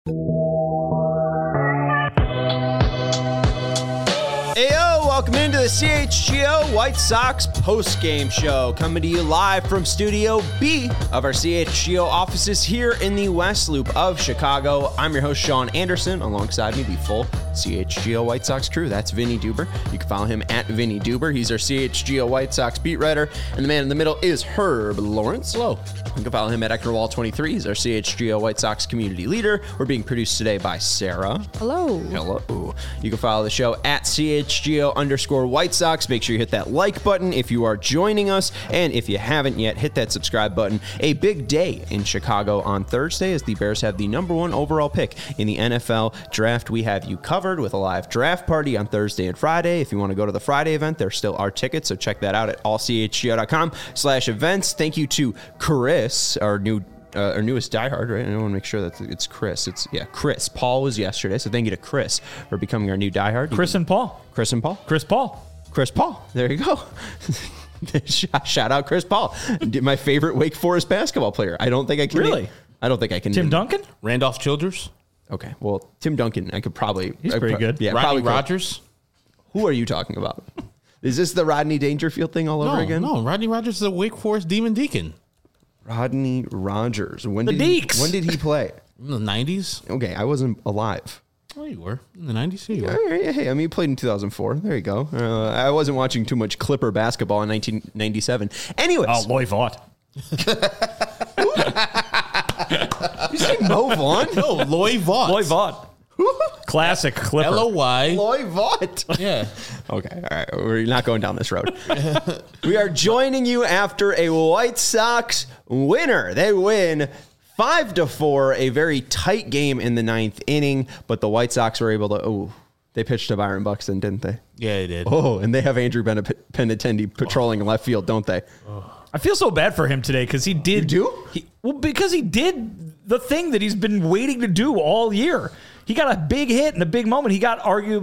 Heyo, welcome into the CHGO White Sox post-game show, coming to you live from Studio B of our CHGO offices here in the West Loop of Chicago. I'm your host, Sean Anderson. Alongside me, the full CHGO White Sox crew. That's Vinny Duber. You can follow him at Vinny Duber. He's our CHGO White Sox beat writer. And the man in the middle is Herb Lawrence. Hello. You can follow him at Eckerwall23. He's our CHGO White Sox community leader. We're being produced today by Sarah. Hello. Hello. You can follow the show at CHGO_White Sox. Make sure you hit that like button if you are joining us. And if you haven't yet, hit that subscribe button. A big day in Chicago on Thursday as the Bears have the #1 overall pick in the NFL draft. We have you covered with a live draft party on Thursday and Friday. If you want to go to the Friday event, there still are tickets, so check that out at allchgo.com/events. Thank you to Chris, our newest diehard, right? I want to make sure that it's Chris. Chris. Paul was yesterday, so thank you to Chris for becoming our new diehard. Chris and Paul. Chris and Paul. Chris Paul. Chris Paul. There you go. Shout out Chris Paul, my favorite Wake Forest basketball player. I don't think I can. Really? I don't think I can. Tim Duncan? Randolph Childers? Okay, well, Tim Duncan, I could probably. He's pretty good. Yeah, Rodney probably. Rogers? Who are you talking about? Is this the Rodney Dangerfield thing all over again? No, Rodney Rogers is a Wake Forest Demon Deacon. Rodney Rogers. When The did Deeks. When did he play? In the 90s? Okay, I wasn't alive. Oh, you were. In the 90s? Yeah, you were. All right, hey, I mean, he played in 2004. There you go. I wasn't watching too much Clipper basketball in 1997. Anyways. Oh, Loy Vaught. You say Mo Vaughn? No, Loy Vaught. Loy Vaught. Classic Clipper. L-O-Y. Loy Vaught. Yeah. Okay, all right. We're not going down this road. We are joining you after a White Sox winner. They win 5-4, a very tight game in the 9th inning, but the White Sox were able to, they pitched to Byron Buxton, didn't they? Yeah, they did. Oh, and they have Andrew Benintendi patrolling left field, don't they? I feel so bad for him today because he did. You do? Because he did the thing that he's been waiting to do all year. He got a big hit in a big moment. He got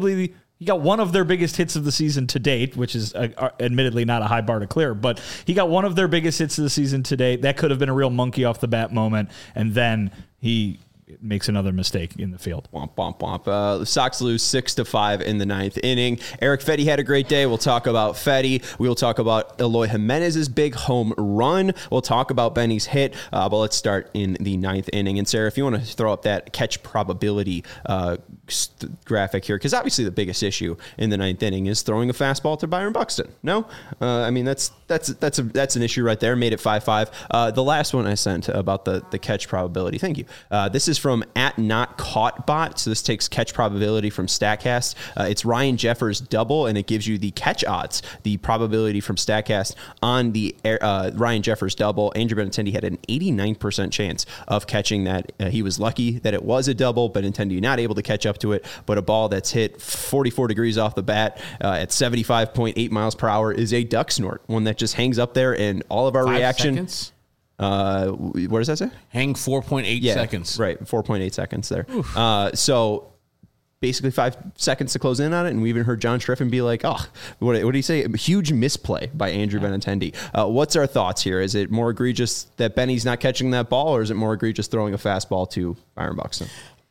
one of their biggest hits of the season to date, which is admittedly not a high bar to clear, but he got one of their biggest hits of the season to date. That could have been a real monkey off the bat moment, and then he makes another mistake in the field. Womp, womp, womp. The Sox lose 6-5 in the 9th inning. Eric Fetty had a great day. We'll talk about Fetty. We'll talk about Eloy Jimenez's big home run. We'll talk about Benny's hit, but let's start in the 9th inning. And Sarah, if you want to throw up that catch probability graphic here, because obviously the biggest issue in the 9th inning is throwing a fastball to Byron Buxton. No? I mean, that's an issue right there. Made it 5-5. The last one I sent about the catch probability. Thank you. This is from @NotCaughtBot. So this takes catch probability from StatCast. It's Ryan Jeffers double, and it gives you the catch odds, the probability from StatCast on the Ryan Jeffers double. Andrew Benintendi had an 89% chance of catching that. He was lucky that it was a double, Benintendi not able to catch up to it, but a ball that's hit 44 degrees off the bat at 75.8 miles per hour is a duck snort, one that just hangs up there, and all of our 5 reaction. seconds? What does that say? Hang 4.8 seconds. Right, 4.8 seconds there. So basically 5 seconds to close in on it, and we even heard John Striffen be like, what did he say? A huge misplay by Andrew Benintendi. What's our thoughts here? Is it more egregious that Benny's not catching that ball, or is it more egregious throwing a fastball to Byron Buxton?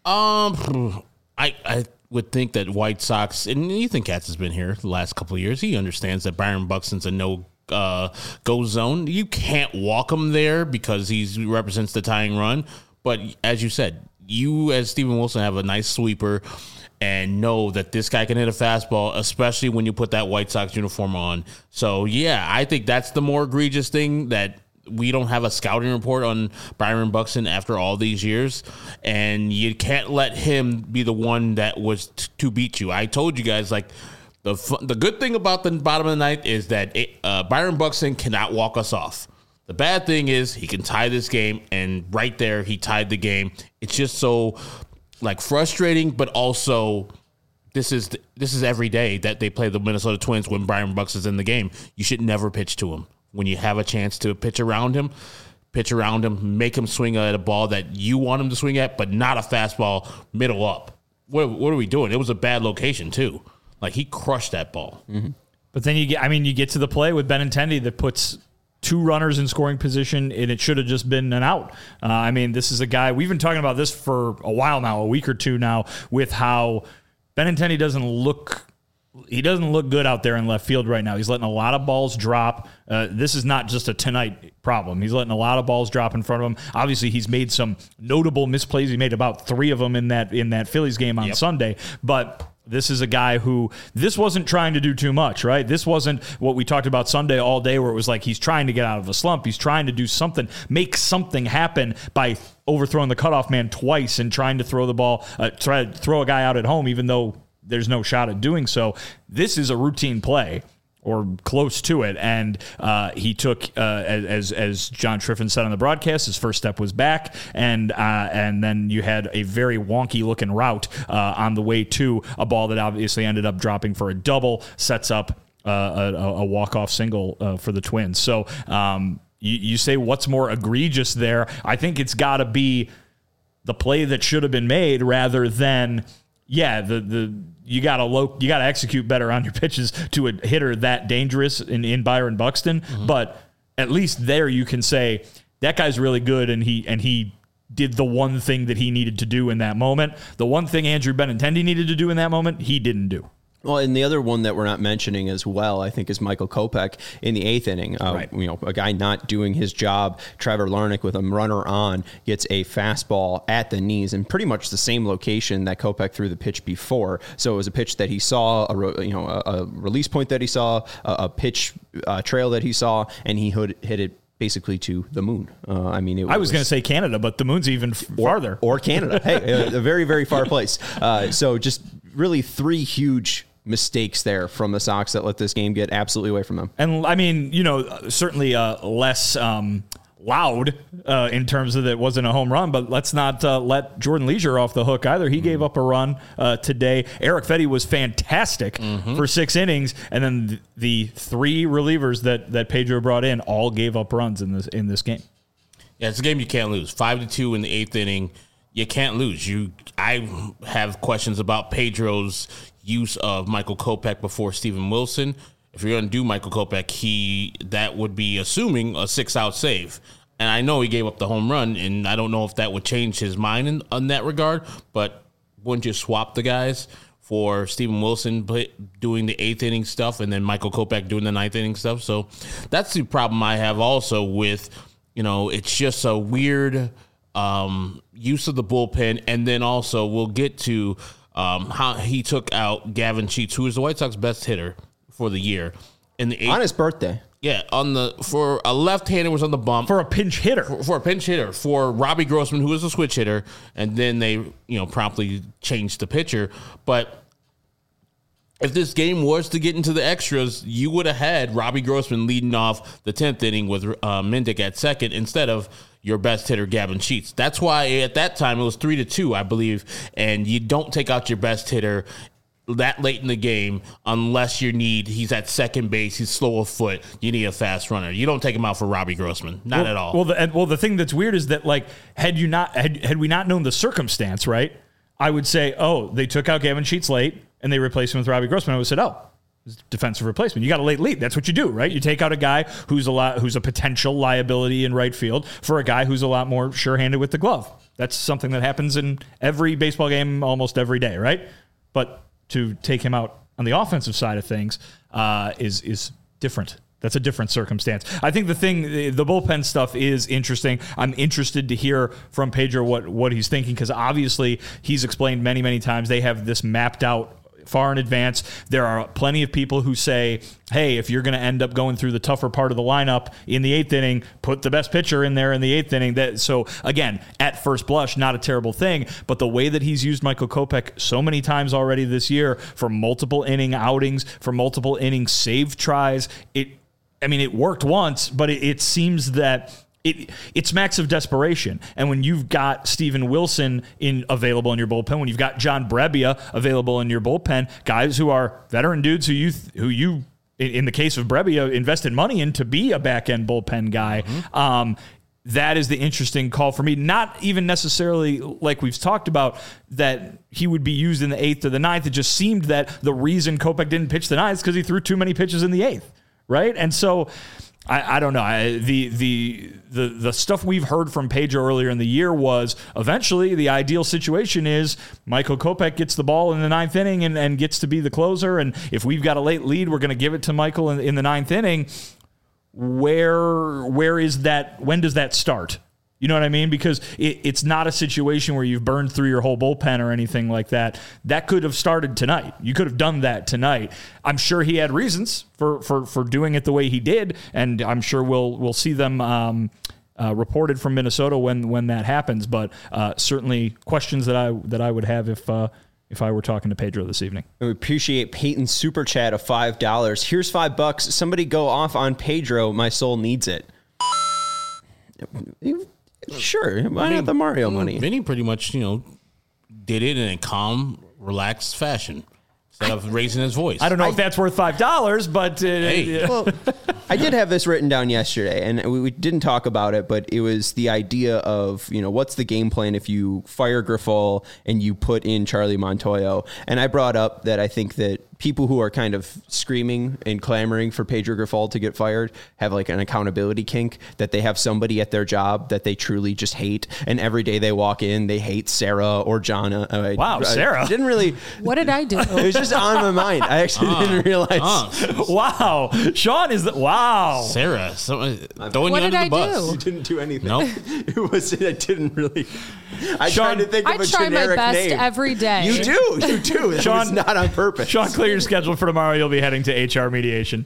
I would think that White Sox, and Ethan Katz has been here the last couple of years, he understands that Byron Buxton's a go zone. You can't walk him there because he represents the tying run. But as you said, you as Steven Wilson have a nice sweeper and know that this guy can hit a fastball, especially when you put that White Sox uniform on. So, yeah, I think that's the more egregious thing, that we don't have a scouting report on Byron Buxton after all these years, and you can't let him be the one that was to beat you. I told you guys, like, the good thing about the bottom of the ninth is that Byron Buxton cannot walk us off. The bad thing is he can tie this game, and right there he tied the game. It's just so frustrating, but also this is every day that they play the Minnesota Twins when Byron Buxton's in the game. You should never pitch to him. When you have a chance to pitch around him, make him swing at a ball that you want him to swing at, but not a fastball middle up. What are we doing? It was a bad location too. He crushed that ball. Mm-hmm. But then you get to the play with Benintendi that puts 2 runners in scoring position, and it should have just been an out. I mean, this is a guy, we've been talking about this for a while now, a week or two now, with how Benintendi doesn't look good out there in left field right now. He's letting a lot of balls drop. This is not just a tonight problem. He's letting a lot of balls drop in front of him. Obviously, he's made some notable misplays. He made about 3 of them in that Phillies game on Sunday, but this is a guy who, this wasn't trying to do too much, right? This wasn't what we talked about Sunday all day, where it was like he's trying to get out of a slump. He's trying to do something, make something happen by overthrowing the cutoff man twice and trying to throw the ball, try to throw a guy out at home, even though there's no shot at doing so. This is a routine play, or close to it, and he took, as John Triffin said on the broadcast, his first step was back, and then you had a very wonky-looking route on the way to a ball that obviously ended up dropping for a double, sets up a walk-off single for the Twins. So you say what's more egregious there? I think it's got to be the play that should have been made rather than, you got to execute better on your pitches to a hitter that dangerous in Byron Buxton. Mm-hmm. But at least there you can say that guy's really good, and he did the one thing that he needed to do in that moment. The one thing Andrew Benintendi needed to do in that moment, he didn't do. Well, and the other one that we're not mentioning as well, I think, is Michael Kopech in the 8th inning. Right. A guy not doing his job. Trevor Larnach, with a runner on, gets a fastball at the knees in pretty much the same location that Kopech threw the pitch before. So it was a pitch that he saw, a release point that he saw, a pitch trail that he saw, and he hit it basically to the moon. I was going to say Canada, but the moon's even farther. Or Canada. Hey, a very, very far place. So just really 3 huge mistakes there from the Sox that let this game get absolutely away from them. And I mean, certainly less loud in terms of that it wasn't a home run, but let's not let Jordan Leisure off the hook either. He gave up a run today. Eric Fedde was fantastic for 6 innings, and then the 3 relievers that Pedro brought in all gave up runs in this game. Yeah, it's a game you can't lose. 5-2 in the 8th inning. You can't lose. I have questions about Pedro's use of Michael Kopech before Steven Wilson. If you're going to do Michael Kopech, that would be assuming a 6-out save. And I know he gave up the home run, and I don't know if that would change his mind in that regard, but wouldn't you swap the guys for Steven Wilson doing the 8th inning stuff and then Michael Kopech doing the 9th inning stuff? So that's the problem I have also with, it's just a weird use of the bullpen. And then also we'll get to how he took out Gavin Sheets, who is the White Sox best hitter for the year. In the 8th, on his birthday. Yeah, for a left-hander was on the bump. For a pinch hitter. For a pinch hitter. For Robbie Grossman, who was a switch hitter, and then they promptly changed the pitcher. But if this game was to get into the extras, you would have had Robbie Grossman leading off the 10th inning with Mendick at second instead of your best hitter, Gavin Sheets. That's why at that time it was 3-2, I believe, and you don't take out your best hitter that late in the game unless he's at second base, he's slow of foot, you need a fast runner. You don't take him out for Robbie Grossman. Not at all. The thing that's weird is that, had we not known the circumstance, right, I would say, they took out Gavin Sheets late and they replaced him with Robbie Grossman. I would have said, defensive replacement. You got a late lead. That's what you do, right? You take out a guy who's a potential liability in right field for a guy who's a lot more sure-handed with the glove. That's something that happens in every baseball game almost every day, right? But to take him out on the offensive side of things is different. That's a different circumstance. I think the bullpen stuff is interesting. I'm interested to hear from Pedro what he's thinking, because obviously he's explained many, many times they have this mapped out far in advance. There are plenty of people who say, hey, if you're going to end up going through the tougher part of the lineup in the 8th inning, put the best pitcher in there in the 8th inning. So again, at first blush, not a terrible thing, but the way that he's used Michael Kopech so many times already this year for multiple inning outings, for multiple inning save tries, it worked once, but it seems that it smacks of desperation. And when you've got Steven Wilson available in your bullpen, when you've got John Brebbia available in your bullpen, guys who are veteran dudes who you in the case of Brebbia, invested money in to be a back-end bullpen guy, that is the interesting call for me. Not even necessarily like we've talked about that he would be used in the 8th or the 9th. It just seemed that the reason Kopech didn't pitch the 9th is because he threw too many pitches in the 8th, right? And so I don't know. The stuff we've heard from Pedro earlier in the year was eventually the ideal situation is Michael Kopech gets the ball in the 9th inning and gets to be the closer. And if we've got a late lead, we're going to give it to Michael in the 9th inning. Where is that? When does that start? You know what I mean? Because it's not a situation where you've burned through your whole bullpen or anything like that. That could have started tonight. You could have done that tonight. I'm sure he had reasons for doing it the way he did, and I'm sure we'll see them reported from Minnesota when that happens. But certainly questions that I would have if I were talking to Pedro this evening. We appreciate Peyton's super chat of $5. Here's $5. Somebody go off on Pedro. My soul needs it. Sure, why not the Mario money? Vinny pretty much, did it in a calm, relaxed fashion instead of raising his voice. I don't know if that's worth $5, but well, I did have this written down yesterday, and we didn't talk about it, but it was the idea of, what's the game plan if you fire Grifol and you put in Charlie Montoyo? And I brought up that I think that people who are kind of screaming and clamoring for Pedro Grifol to get fired have like an accountability kink, that they have somebody at their job that they truly just hate. And every day they walk in, they hate Sarah or Jonna. Wow, Sarah. I didn't really. What did I do? It was just on my mind. I actually didn't realize. Wow. Sean is wow. Sarah, throwing What you did under I the bus. do? You didn't do anything. Nope. I didn't really. I Sean, tried to think of I a try my generic best name. every day. You do. That Sean- was not on purpose. Sean, clear your schedule for tomorrow. You'll be heading to HR mediation.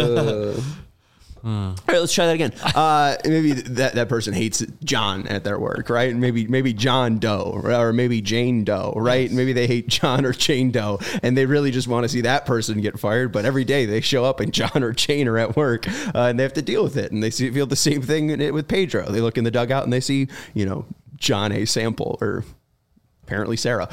All right, let's try that again. Maybe that person hates John at their work, right? Maybe John Doe, or maybe Jane Doe, right? Maybe they hate John or Jane Doe, and they really just want to see that person get fired. But every day they show up and John or Jane are at work, and they have to deal with it. And they feel the same thing with Pedro. They look in the dugout and they see, John A. Sample or apparently Sarah.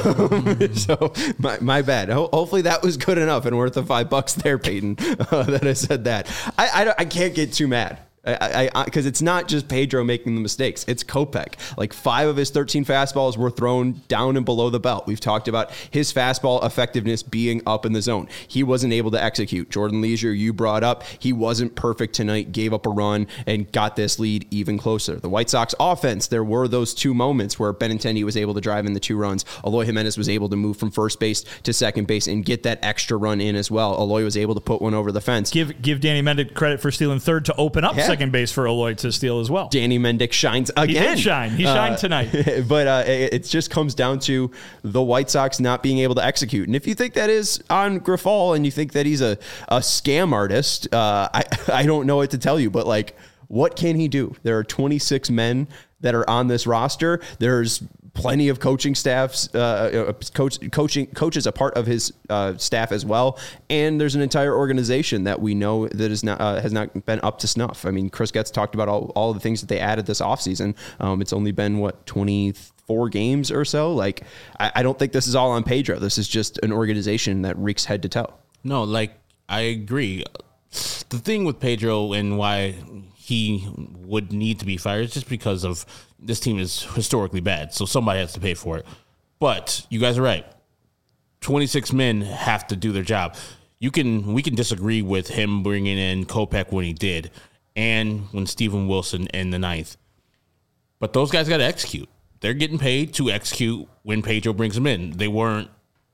So my bad. Hopefully that was good enough and worth the $5 there, Peyton, that I said that. I can't get too mad. Because it's not just Pedro making the mistakes. It's Kopech. Like 5 of his 13 fastballs were thrown down and below the belt. We've talked about his fastball effectiveness being up in the zone. He wasn't able to execute. Jordan Leisure, you brought up, he wasn't perfect tonight, gave up a run and got this lead even closer. The White Sox offense, there were those 2 moments where Benintendi was able to drive in the 2 runs. Eloy Jimenez was able to move from first base to second base and get that extra run in as well. Eloy was able to put one over the fence. Give Danny Mendick credit for stealing third to open up second base for Eloy to steal as well. Danny Mendick shines again. He did shine. He shined tonight. But it just comes down to the White Sox not being able to execute. And if you think that is on Grifol and you think that he's a scam artist, I don't know what to tell you. But like, what can he do? There are 26 men that are on this roster. There's plenty of coaching staffs, coaches a part of his staff as well, and there's an entire organization that we know that is not has not been up to snuff. I mean, Chris Getz talked about all the things that they added this offseason. It's only been 24 games or so. Like, I don't think this is all on Pedro. This is just an organization that reeks head to toe. No, I agree. The thing with Pedro and why he would need to be fired is just because of this team is historically bad, so somebody has to pay for it. But you guys are right. 26 men have to do their job. We can disagree with him bringing in Kopech when he did, and when Steven Wilson in the 9th. But those guys got to execute. They're getting paid to execute when Pedro brings them in. They weren't,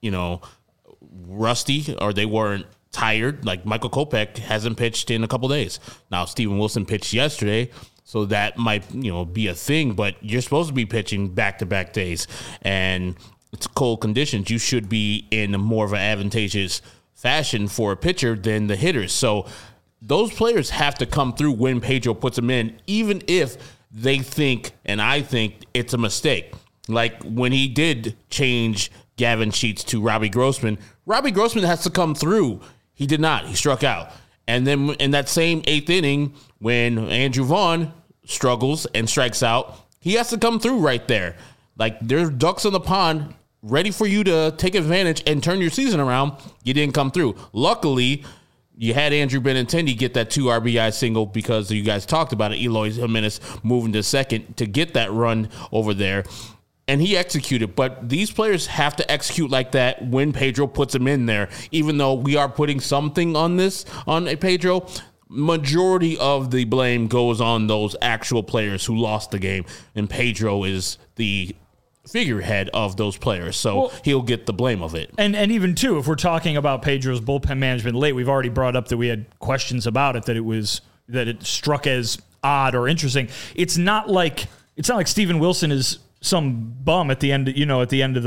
rusty, or they weren't tired. Like Michael Kopech hasn't pitched in a couple days. Now Steven Wilson pitched yesterday, so that might be a thing. But you're supposed to be pitching back-to-back days, and it's cold conditions. You should be in more of an advantageous fashion for a pitcher than the hitters. So those players have to come through when Pedro puts them in, even if they think, and I think, it's a mistake. Like when he did change Gavin Sheets to Robbie Grossman has to come through. He did not. He struck out. And then in that same 8th inning, when Andrew Vaughn struggles and strikes out, he has to come through right there. Like, there's ducks in the pond ready for you to take advantage and turn your season around. You didn't come through. Luckily, you had Andrew Benintendi get that 2 RBI single because you guys talked about it. Eloy Jimenez moving to second to get that run over there. And he executed, but these players have to execute like that when Pedro puts them in there. Even though we are putting something on Pedro, majority of the blame goes on those actual players who lost the game, and Pedro is the figurehead of those players, so he'll get the blame of it. And even too, if we're talking about Pedro's bullpen management late, we've already brought up that we had questions about it, that it struck as odd or interesting. It's not like Steven Wilson is some bum at the end, at the end of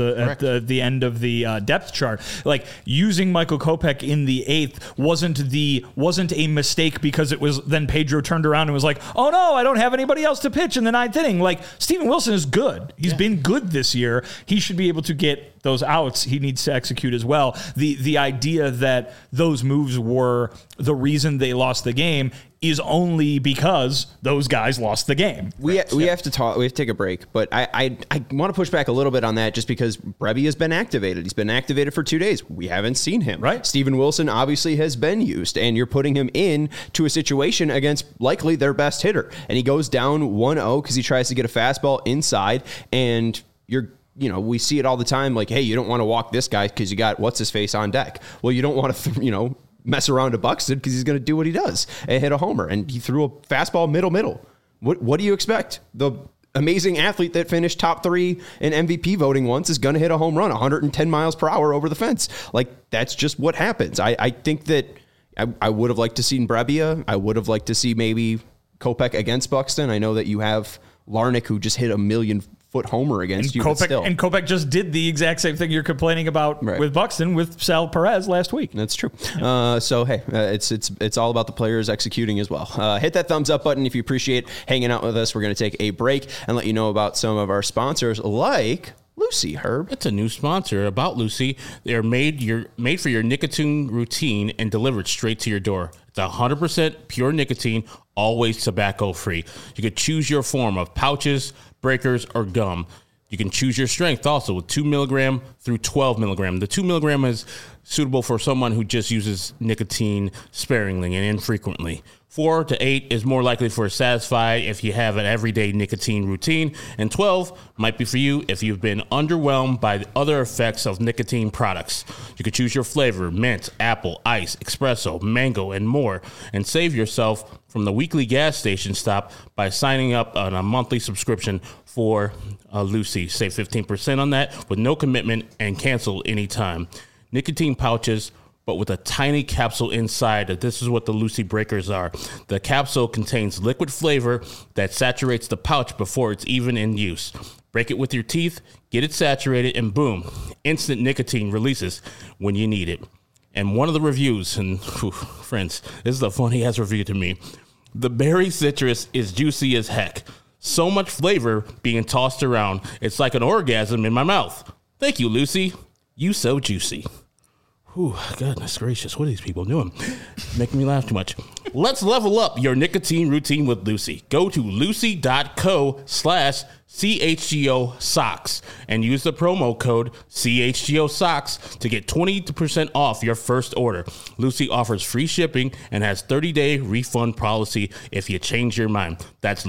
the depth chart. Like, using Michael Kopech in the 8th wasn't a mistake because it was then Pedro turned around and was like, oh no, I don't have anybody else to pitch in the 9th inning. Like, Steven Wilson is good. He's been good this year. He should be able to get those outs. He needs to execute as well. The idea that those moves were the reason they lost the game is only because those guys lost the game. We have to talk. We have to take a break, but I want to push back a little bit on that, just because Brebbia has been activated. He's been activated for 2 days. We haven't seen him. Right. Steven Wilson obviously has been used, and you're putting him in to a situation against likely their best hitter, and he goes down 1-0 because he tries to get a fastball inside, and we see it all the time. Like, hey, you don't want to walk this guy because you got what's his face on deck. Well, you don't want to mess around to Buxton because he's going to do what he does and hit a homer. And he threw a fastball middle. What do you expect? The amazing athlete that finished top 3 in MVP voting once is going to hit a home run 110 miles per hour over the fence. Like, that's just what happens. I think that I would have liked to see Brebbia. I would have liked to see maybe Kopech against Buxton. I know that you have Larnach, who just hit a 1,000,000-foot homer against you. And Kopech just did the exact same thing you're complaining about with Buxton with Sal Perez last week. That's true. So hey, it's all about the players executing as well. Hit that thumbs up button if you appreciate hanging out with us. We're going to take a break and let you know about some of our sponsors, like Lucy. Herb, it's a new sponsor. About Lucy, they're made for your nicotine routine and delivered straight to your door. It's 100% pure nicotine, always tobacco free. You could choose your form of pouches, breakers, or gum. You can choose your strength also with 2 milligram through 12 milligram. The 2 milligram is suitable for someone who just uses nicotine sparingly and infrequently. 4 to 8 is more likely for Satisfy if you have an everyday nicotine routine, and 12 might be for you if you've been underwhelmed by the other effects of nicotine products. You can choose your flavor: mint, apple, ice, espresso, mango, and more, and save yourself from the weekly gas station stop by signing up on a monthly subscription for Lucy. Save 15% on that with no commitment and cancel anytime. Nicotine pouches, but with a tiny capsule inside. This is what the Lucy Breakers are. The capsule contains liquid flavor that saturates the pouch before it's even in use. Break it with your teeth, get it saturated, and boom, instant nicotine releases when you need it. And one of the reviews, and friends, this is a funny-ass review to me. The berry citrus is juicy as heck. So much flavor being tossed around, it's like an orgasm in my mouth. Thank you, Lucy. You so juicy. Whew, goodness gracious, what are these people doing? Making me laugh too much. Let's level up your nicotine routine with Lucy. Go to lucy.co/CHGO socks and use the promo code CHGO socks to get 20% off your first order. Lucy offers free shipping and has 30-day refund policy if you change your mind. That's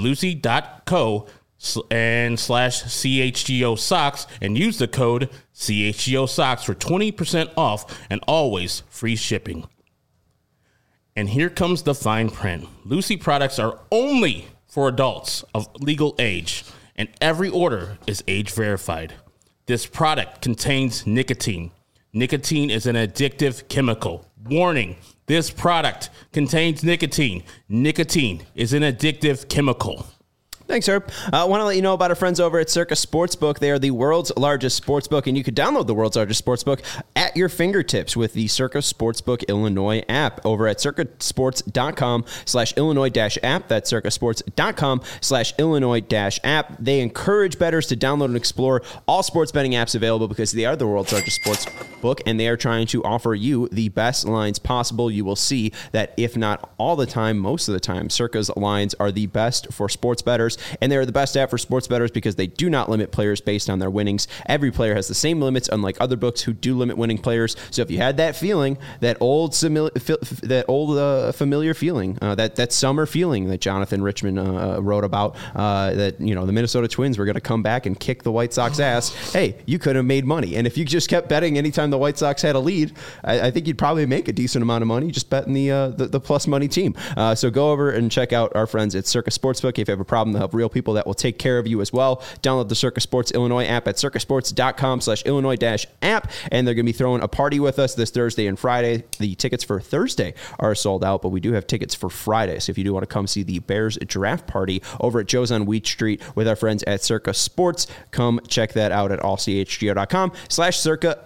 lucy.co/CHGO socks and use the code CHGO socks for 20% off and always free shipping. And here comes the fine print. Lucy products are only for adults of legal age, and every order is age verified. This product contains nicotine. Nicotine is an addictive chemical. Warning, this product contains nicotine. Nicotine is an addictive chemical. Thanks, Herb. I want to let you know about our friends over at Circa Sportsbook. They are the world's largest sportsbook, and you can download the world's largest sportsbook at your fingertips with the Circa Sportsbook Illinois app over at circasports.com/Illinois-app. That's circasports.com/Illinois-app. They encourage bettors to download and explore all sports betting apps available because they are the world's largest sportsbook, and they are trying to offer you the best lines possible. You will see that if not all the time, most of the time, Circa's lines are the best for sports bettors. And they're the best app for sports bettors because they do not limit players based on their winnings. Every player has the same limits, unlike other books who do limit winning players. So if you had that feeling, that old familiar feeling, that summer feeling that Jonathan Richman wrote about, that the Minnesota Twins were going to come back and kick the White Sox ass, hey, you could have made money. And if you just kept betting anytime the the White Sox had a lead, I think you'd probably make a decent amount of money just betting the plus money team. So go over and check out our friends at Circa Sportsbook. If you have a problem, they'll have real people that will take care of you as well. Download the Circa Sports Illinois app at circasports.com/Illinois-app, and they're going to be throwing a party with us this Thursday and Friday. The tickets for Thursday are sold out, but we do have tickets for Friday. So if you do want to come see the Bears draft party over at Joe's on Wheat Street with our friends at Circa Sports, come check that out at allchgo.com/circa.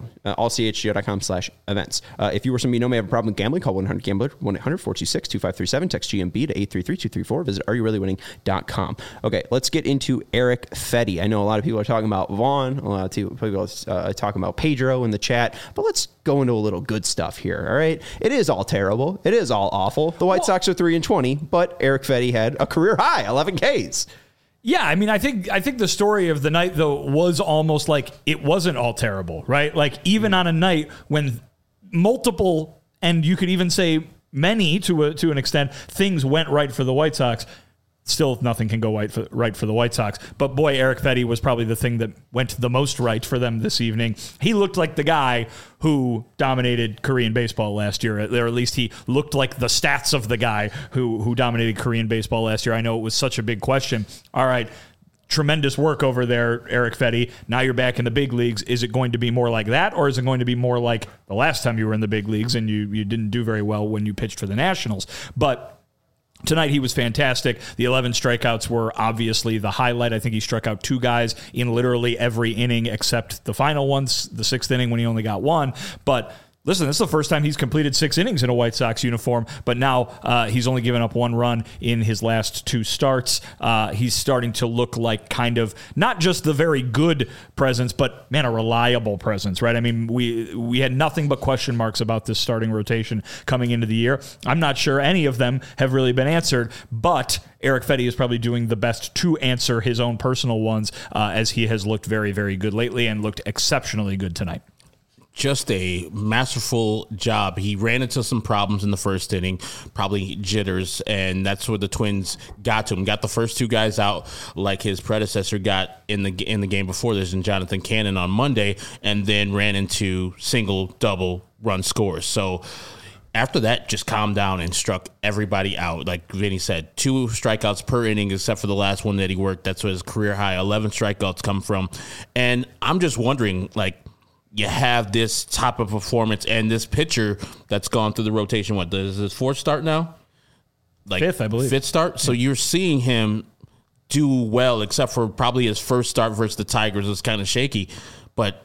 allchgo.com/events. If you or somebody you know may have a problem with gambling, call 1-800-GAMBLER, 1-800-426-2537, text GMB to 833-234, visit areyourreallywinning.com. Okay, let's get into Erick Fedde. I know a lot of people are talking about Vaughn, a lot of people are talking about Pedro in the chat, but let's go into a little good stuff here, all right? It is all terrible. It is all awful. The White Sox are 3-20, but Erick Fedde had a career high, 11 Ks. Yeah, I mean, I think the story of the night, though, was almost like it wasn't all terrible, right? Like, even on a night when multiple, and you could even say many to an extent, things went right for the White Sox, still nothing can go right for the White Sox. But boy, Erick Fedde was probably the thing that went the most right for them this evening. He looked like the guy who dominated Korean baseball last year, or at least he looked like the stats of the guy who dominated Korean baseball last year. I know it was such a big question. All right, tremendous work over there, Erick Fedde. Now you're back in the big leagues. Is it going to be more like that, or is it going to be more like the last time you were in the big leagues and you didn't do very well when you pitched for the Nationals? But tonight, he was fantastic. The 11 strikeouts were obviously the highlight. I think he struck out 2 guys in literally every inning except the final ones, the 6th inning when he only got 1. But listen, this is the first time he's completed 6 innings in a White Sox uniform, but now he's only given up 1 run in his last 2 starts. He's starting to look like kind of not just the very good presence, but, man, a reliable presence, right? I mean, we had nothing but question marks about this starting rotation coming into the year. I'm not sure any of them have really been answered, but Erick Fedde is probably doing the best to answer his own personal ones, as he has looked very, very good lately and looked exceptionally good tonight. Just a masterful job. He ran into some problems in the first inning, probably jitters, and that's where the Twins got to him. Got the first 2 guys out like his predecessor got in the game before this in Jonathan Cannon on Monday, and then ran into single, double run scores. So after that, just calmed down and struck everybody out. Like Vinny said, 2 strikeouts per inning, except for the last one that he worked. That's where his career high 11 strikeouts come from. And I'm just wondering, like, you have this type of performance and this pitcher that's gone through the rotation. What, is his 4th start now? Like 5th, I believe. 5th start. So you're seeing him do well, except for probably his first start versus the Tigers was kind of shaky. But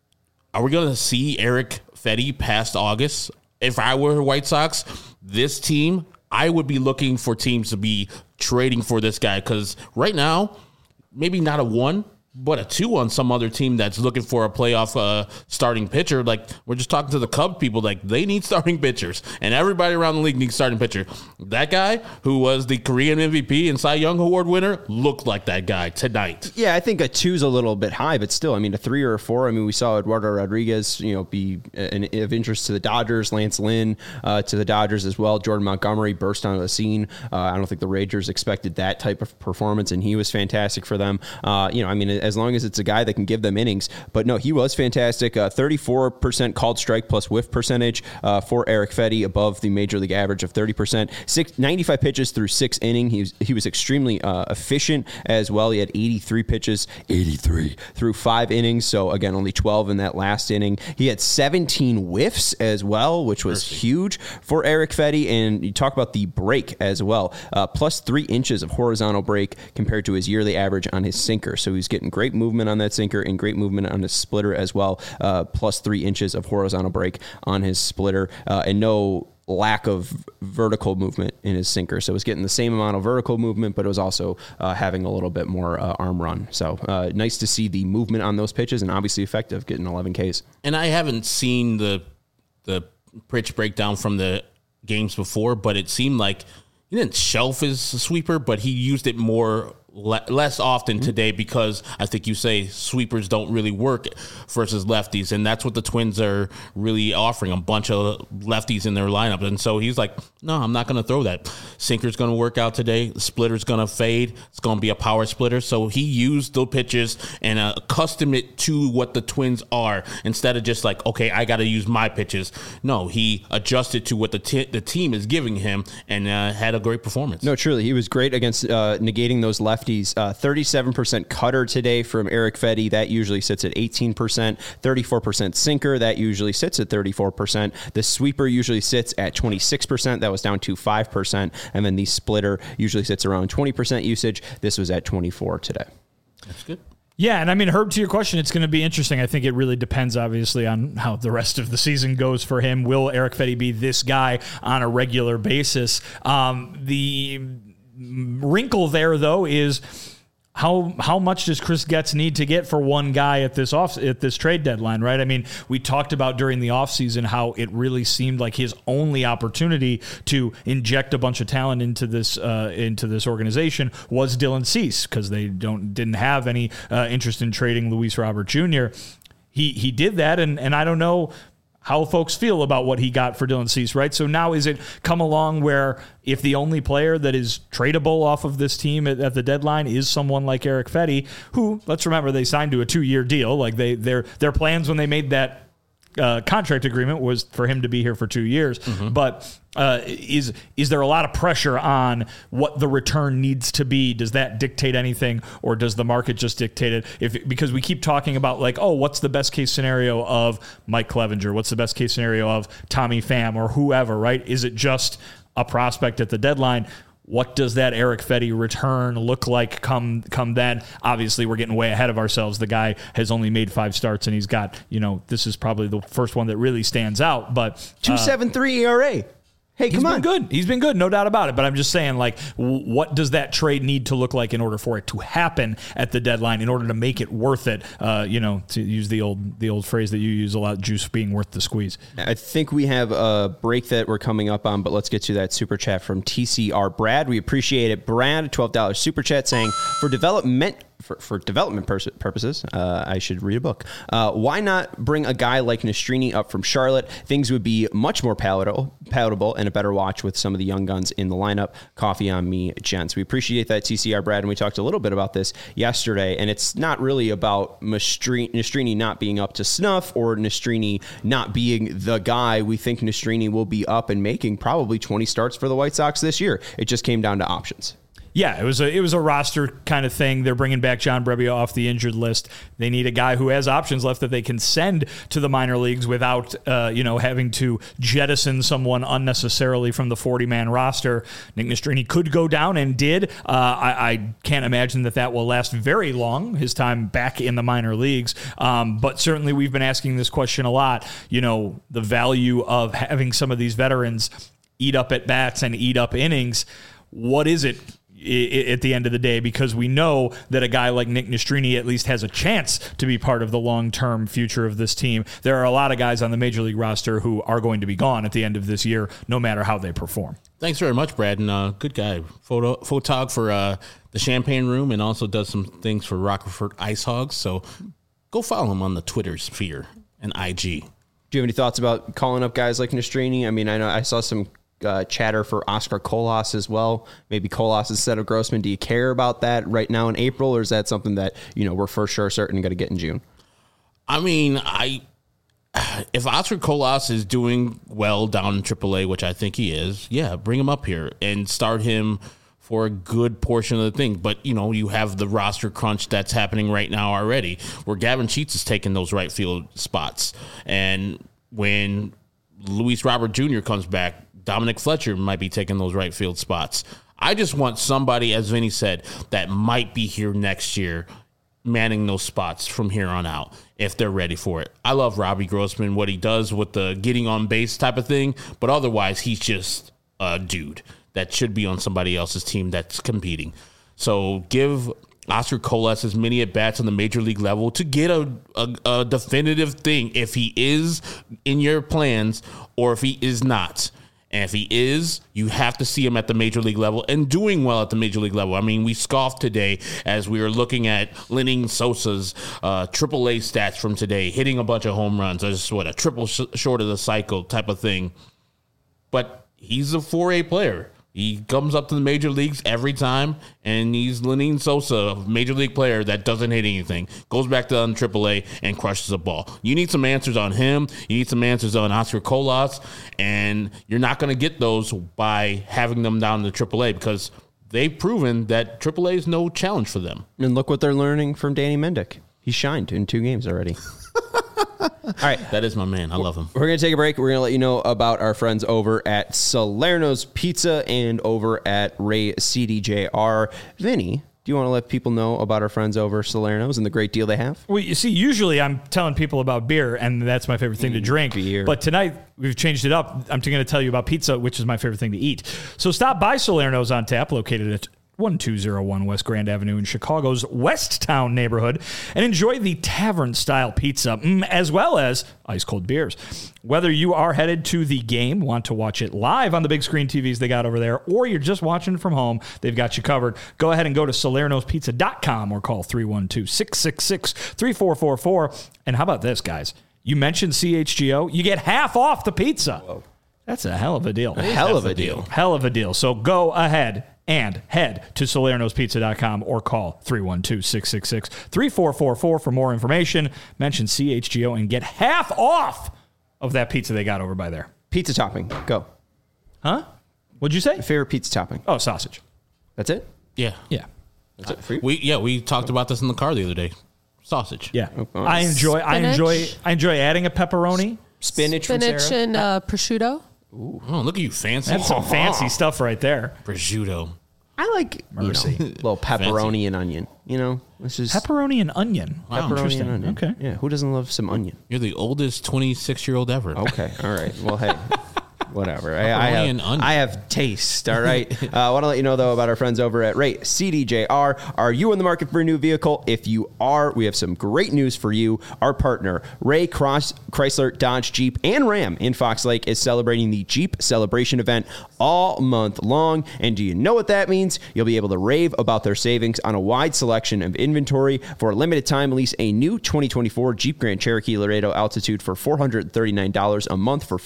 are we going to see Erick Fedde past August? If I were White Sox, this team, I would be looking for teams to be trading for this guy, because right now, maybe not a 1, but a 2 on some other team that's looking for a playoff starting pitcher. Like, we're just talking to the Cub people, like, they need starting pitchers, and everybody around the league needs starting pitcher. That guy, who was the Korean MVP and Cy Young Award winner, looked like that guy tonight. Yeah, I think a 2's a little bit high, but still, I mean, a 3 or a 4. I mean, we saw Eduardo Rodriguez, be of interest to the Dodgers, Lance Lynn to the Dodgers as well. Jordan Montgomery burst onto the scene. I don't think the Rangers expected that type of performance, and he was fantastic for them. I mean, as long as it's a guy that can give them innings. But no, he was fantastic. 34% called strike plus whiff percentage for Erick Fedde, above the major league average of 30%. 95 pitches through 6 innings. He was extremely efficient as well. He had 83 pitches, 83 through 5 innings. So again, only 12 in that last inning. He had 17 whiffs as well, which was huge for Erick Fedde. And you talk about the break as well. Plus 3 inches of horizontal break compared to his yearly average on his sinker. So he's getting great movement on that sinker and great movement on his splitter as well. Plus 3 inches of horizontal break on his splitter, and no lack of vertical movement in his sinker. So it was getting the same amount of vertical movement, but it was also having a little bit more arm run. So nice to see the movement on those pitches, and obviously effective, getting 11 Ks. And I haven't seen the pitch breakdown from the games before, but it seemed like he didn't shelf his sweeper, but he used it more less often today because I think you say sweepers don't really work versus lefties, and that's what the Twins are really offering, a bunch of lefties in their lineup. And so he's like, no, I'm not going to throw that. Sinker's going to work out today. The splitter's going to fade. It's going to be a power splitter. So he used the pitches and accustomed it to what the Twins are instead of just like, okay, I got to use my pitches. No, he adjusted to what the team is giving him and had a great performance. No, truly. He was great against negating those lefties. 37% cutter today from Erick Fedde. That usually sits at 18%. 34% sinker. That usually sits at 34%. The sweeper usually sits at 26%. That was down to 5%. And then the splitter usually sits around 20% usage. This was at 24 today. That's good. Yeah, and I mean, Herb, to your question, it's going to be interesting. I think it really depends, obviously, on how the rest of the season goes for him. Will Erick Fedde be this guy on a regular basis? The wrinkle there, though, is how much does Chris Getz need to get for one guy at this trade deadline, right? I mean, we talked about during the offseason how it really seemed like his only opportunity to inject a bunch of talent into this organization was Dylan Cease, because they didn't have any interest in trading Luis Robert Jr. He did that, and I don't know how folks feel about what he got for Dylan Cease, right? So now is it come along where if the only player that is tradable off of this team at the deadline is someone like Erick Fedde, who, let's remember, they signed to a 2-year deal. Like their plans when they made that contract agreement was for him to be here for 2 years. Mm-hmm. But is there a lot of pressure on what the return needs to be? Does that dictate anything, or does the market just dictate it? Because we keep talking about like, oh, what's the best case scenario of Mike Clevenger? What's the best case scenario of Tommy Pham or whoever, right? Is it just a prospect at the deadline? What does that Erick Fedde return look like come then? Obviously, we're getting way ahead of ourselves. The guy has only made 5 starts, and he's got, this is probably the first one that really stands out. But 2.73 ERA. Hey, come on. He's been good, no doubt about it. But I'm just saying, like, what does that trade need to look like in order for it to happen at the deadline, in order to make it worth it? To use the old phrase that you use a lot, juice being worth the squeeze. I think we have a break that we're coming up on, but let's get to that super chat from TCR Brad. We appreciate it. Brad, $12 super chat saying, for development purposes, I should read a book. Why not bring a guy like Nastrini up from Charlotte? Things would be much more palatable and a better watch with some of the young guns in the lineup. Coffee on me, gents. We appreciate that, TCR Brad, and we talked a little bit about this yesterday, and it's not really about Nastrini not being up to snuff or Nastrini not being the guy. We think Nastrini will be up and making probably 20 starts for the White Sox this year. It just came down to options. Yeah, it was a roster kind of thing. They're bringing back John Brebbia off the injured list. They need a guy who has options left that they can send to the minor leagues without, having to jettison someone unnecessarily from the 40-man roster. Nick Nastrini could go down and did. I can't imagine that will last very long, his time back in the minor leagues. But certainly we've been asking this question a lot. The value of having some of these veterans eat up at bats and eat up innings. What is it at the end of the day? Because we know that a guy like Nick Nastrini at least has a chance to be part of the long-term future of this team. There are a lot of guys on the major league roster who are going to be gone at the end of this year, no matter how they perform. Thanks very much, Brad, and good guy. Photog for the Champagne Room, and also does some things for Rockford Ice Hogs. So go follow him on the Twitter sphere and IG. Do you have any thoughts about calling up guys like Nastrini? I mean, I know I saw some chatter for Oscar Colas as well. Maybe Colas instead of Grossman. Do you care about that right now in April, or is that something that we're for sure certain going to get in June? I mean, if Oscar Colas is doing well down in AAA, which I think he is, yeah, bring him up here and start him for a good portion of the thing. But, you have the roster crunch that's happening right now already, where Gavin Sheets is taking those right field spots. And when Luis Robert Jr. comes back, Dominic Fletcher might be taking those right field spots. I just want somebody, as Vinny said, that might be here next year manning those spots from here on out if they're ready for it. I love Robbie Grossman, what he does with the getting on base type of thing, but otherwise he's just a dude that should be on somebody else's team that's competing. So give Oscar Colas as many at-bats on the major league level to get a definitive thing if he is in your plans or if he is not. And if he is, you have to see him at the major league level and doing well at the major league level. I mean, we scoffed today as we were looking at Lenyn Sosa's AAA stats from today, hitting a bunch of home runs. That's a triple short of the cycle type of thing. But he's a 4A player. He comes up to the major leagues every time, and he's Lenyn Sosa, a major league player that doesn't hit anything, goes back to AAA and crushes a ball. You need some answers on him. You need some answers on Oscar Colas, and you're not going to get those by having them down to AAA because they've proven that AAA is no challenge for them. And look what they're learning from Danny Mendick. He shined in 2 games already. All right. That is my man. I love him. We're going to take a break. We're going to let you know about our friends over at Salerno's Pizza and over at Ray CDJR. Vinny, do you want to let people know about our friends over at Salerno's and the great deal they have? Well, you see, usually I'm telling people about beer, and that's my favorite thing to drink. Beer. But tonight, we've changed it up. I'm going to tell you about pizza, which is my favorite thing to eat. So stop by Salerno's on tap, located at 1201 West Grand Avenue in Chicago's West Town neighborhood, and enjoy the tavern-style pizza, as well as ice-cold beers. Whether you are headed to the game, want to watch it live on the big screen TVs they got over there, or you're just watching it from home, they've got you covered. Go ahead and go to Salerno'sPizza.com or call 312-666-3444. And how about this, guys? You mentioned CHGO, you get half off the pizza. Whoa. That's a hell of a deal. Hell of a deal. Hell of a deal. So go ahead and head to Salerno'sPizza.com or call 312-666-3444 for more information. Mention CHGO and get half off of that pizza they got over by there. Pizza topping. Go. Huh? What'd you say? Favorite pizza topping. Oh, sausage. That's it? Yeah. Yeah. That's it for you? We talked about this in the car the other day. Sausage. Yeah. Oh, I enjoy adding a pepperoni. Spinach from and prosciutto. Oh, look at you, fancy. That's some fancy stuff right there. Prosciutto. I like, Mercy. little pepperoni and onion. This is Pepperoni and onion. Wow. pepperoni Interesting. and onion. Okay. Yeah, who doesn't love some onion? You're the oldest 26-year-old ever. Okay, all right. Well, hey, whatever. Pepperoni and onion. I have taste, all right? I want to let you know, though, about our friends over at Ray CDJR. Are you in the market for a new vehicle? If you are, we have some great news for you. Our partner, Ray Chrysler, Dodge, Jeep, and Ram in Fox Lake is celebrating the Jeep Celebration event all month long. And do you know what that means? You'll be able to rave about their savings on a wide selection of inventory. For a limited time, lease a new 2024 Jeep Grand Cherokee Laredo Altitude for $439 a month for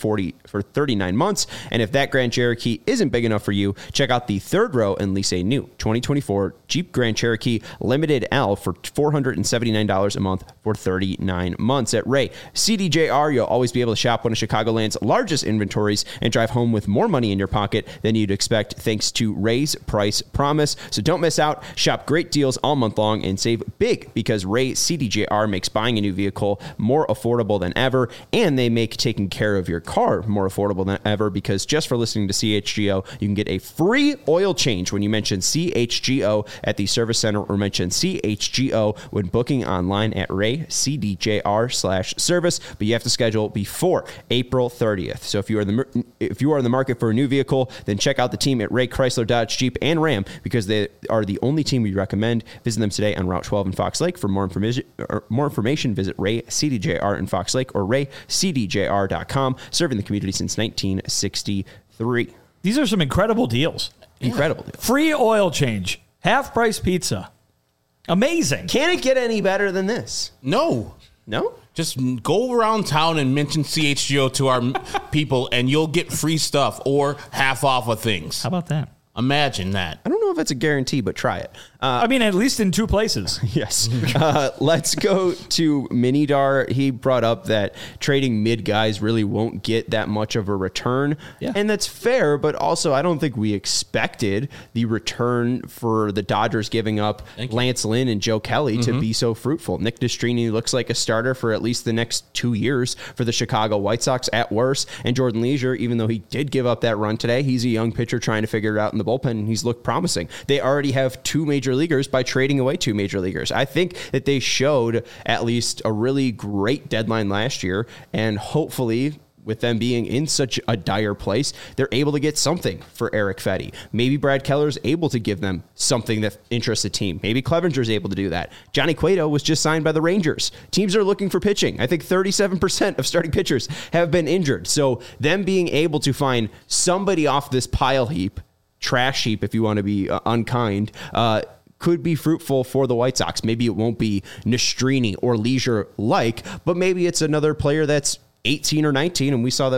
39 months. And if that Grand Cherokee isn't big enough for you, check out the third row and lease a new 2024 Jeep Grand Cherokee Limited L for $479 a month for 39 months. At Ray CDJR, you'll always be able to shop one of Chicagoland's largest inventories and drive home with more money in your pocket than you'd expect thanks to Ray's Price Promise. So don't miss out. Shop great deals all month long and save big because Ray CDJR makes buying a new vehicle more affordable than ever, and they make taking care of your car more affordable than ever because just for listening to CHGO, you can get a free oil change when you mention CHGO at the service center or mention CHGO when booking online at RayCDJR/service, but you have to schedule before April 30th. So if you are in the market for a new vehicle, then check out the team at Ray Chrysler, Dodge, Jeep, and Ram because they are the only team we recommend. Visit them today on Route 12 in Fox Lake. For more information, visit Ray CDJR in Fox Lake or raycdjr.com, serving the community since 1963. These are some incredible deals. Incredible deal. Free oil change. Half price pizza. Amazing. Can it get any better than this? No. No? Just go around town and mention CHGO to our people, and you'll get free stuff or half off of things. How about that? Imagine that. I don't know if it's a guarantee, but try it. I mean, at least in 2 places. Yes. Let's go to Minidar. He brought up that trading mid guys really won't get that much of a return. Yeah. And that's fair, but also I don't think we expected the return for the Dodgers giving up Lance Lynn and Joe Kelly to be so fruitful. Nick Destrini looks like a starter for at least the next 2 years for the Chicago White Sox at worst. And Jordan Leisure, even though he did give up that run today, he's a young pitcher trying to figure it out in the bullpen, and he's looked promising. They already have 2 major leaguers by trading away 2 major leaguers. I think that they showed at least a really great deadline last year, and hopefully with them being in such a dire place, they're able to get something for Erick Fedde. Maybe Brad Keller's able to give them something that interests the team. Maybe Clevenger's able to do that. Johnny Cueto was just signed by the Rangers. Teams are looking for pitching. I think 37% of starting pitchers have been injured. So them being able to find somebody off this pile heap, trash heap if you want to be unkind, could be fruitful for the White Sox. Maybe it won't be Nastrini or Leisure-like, but maybe it's another player that's 18 or 19, and we saw that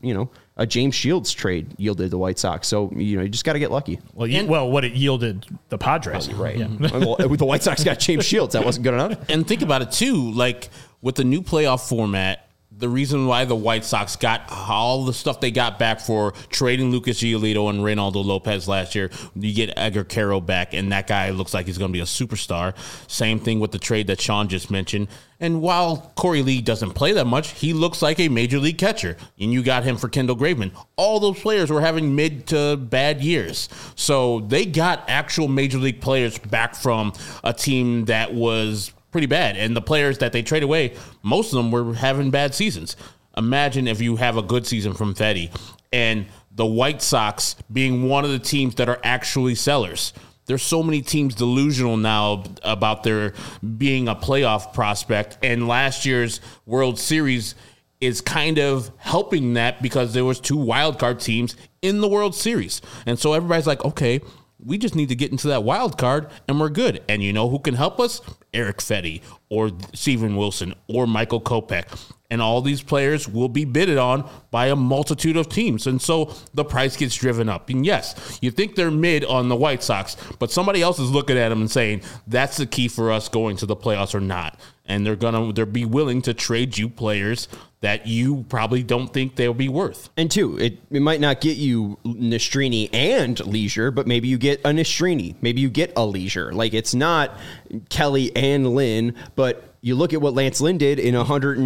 a James Shields trade yielded the White Sox. So, you just got to get lucky. Well, what it yielded the Padres. Right. Yeah. Well, the White Sox got James Shields. That wasn't good enough. And think about it, too. Like, with the new playoff format, the reason why the White Sox got all the stuff they got back for trading Lucas Giolito and Reynaldo Lopez last year, you get Edgar Caro back, and that guy looks like he's going to be a superstar. Same thing with the trade that Sean just mentioned. And while Corey Lee doesn't play that much, he looks like a major league catcher. And you got him for Kendall Graveman. All those players were having mid to bad years. So they got actual major league players back from a team that was pretty bad. And the players that they trade away, most of them were having bad seasons. Imagine if you have a good season from Fedde and the White Sox being one of the teams that are actually sellers. There's so many teams delusional now about their being a playoff prospect. And last year's World Series is kind of helping that because there was 2 wild card teams in the World Series. And so everybody's like, okay, we just need to get into that wild card and we're good. And you know who can help us? Erick Fedde or Steven Wilson or Michael Kopech. And all these players will be bidded on by a multitude of teams. And so the price gets driven up. And yes, you think they're mid on the White Sox, but somebody else is looking at them and saying, that's the key for us going to the playoffs or not. And they'll be willing to trade you players that you probably don't think they'll be worth. And two, it might not get you Nastrini and Leisure, but maybe you get a Nastrini. Maybe you get a Leisure. Like, it's not Kelly and Lynn, but you look at what Lance Lynn did in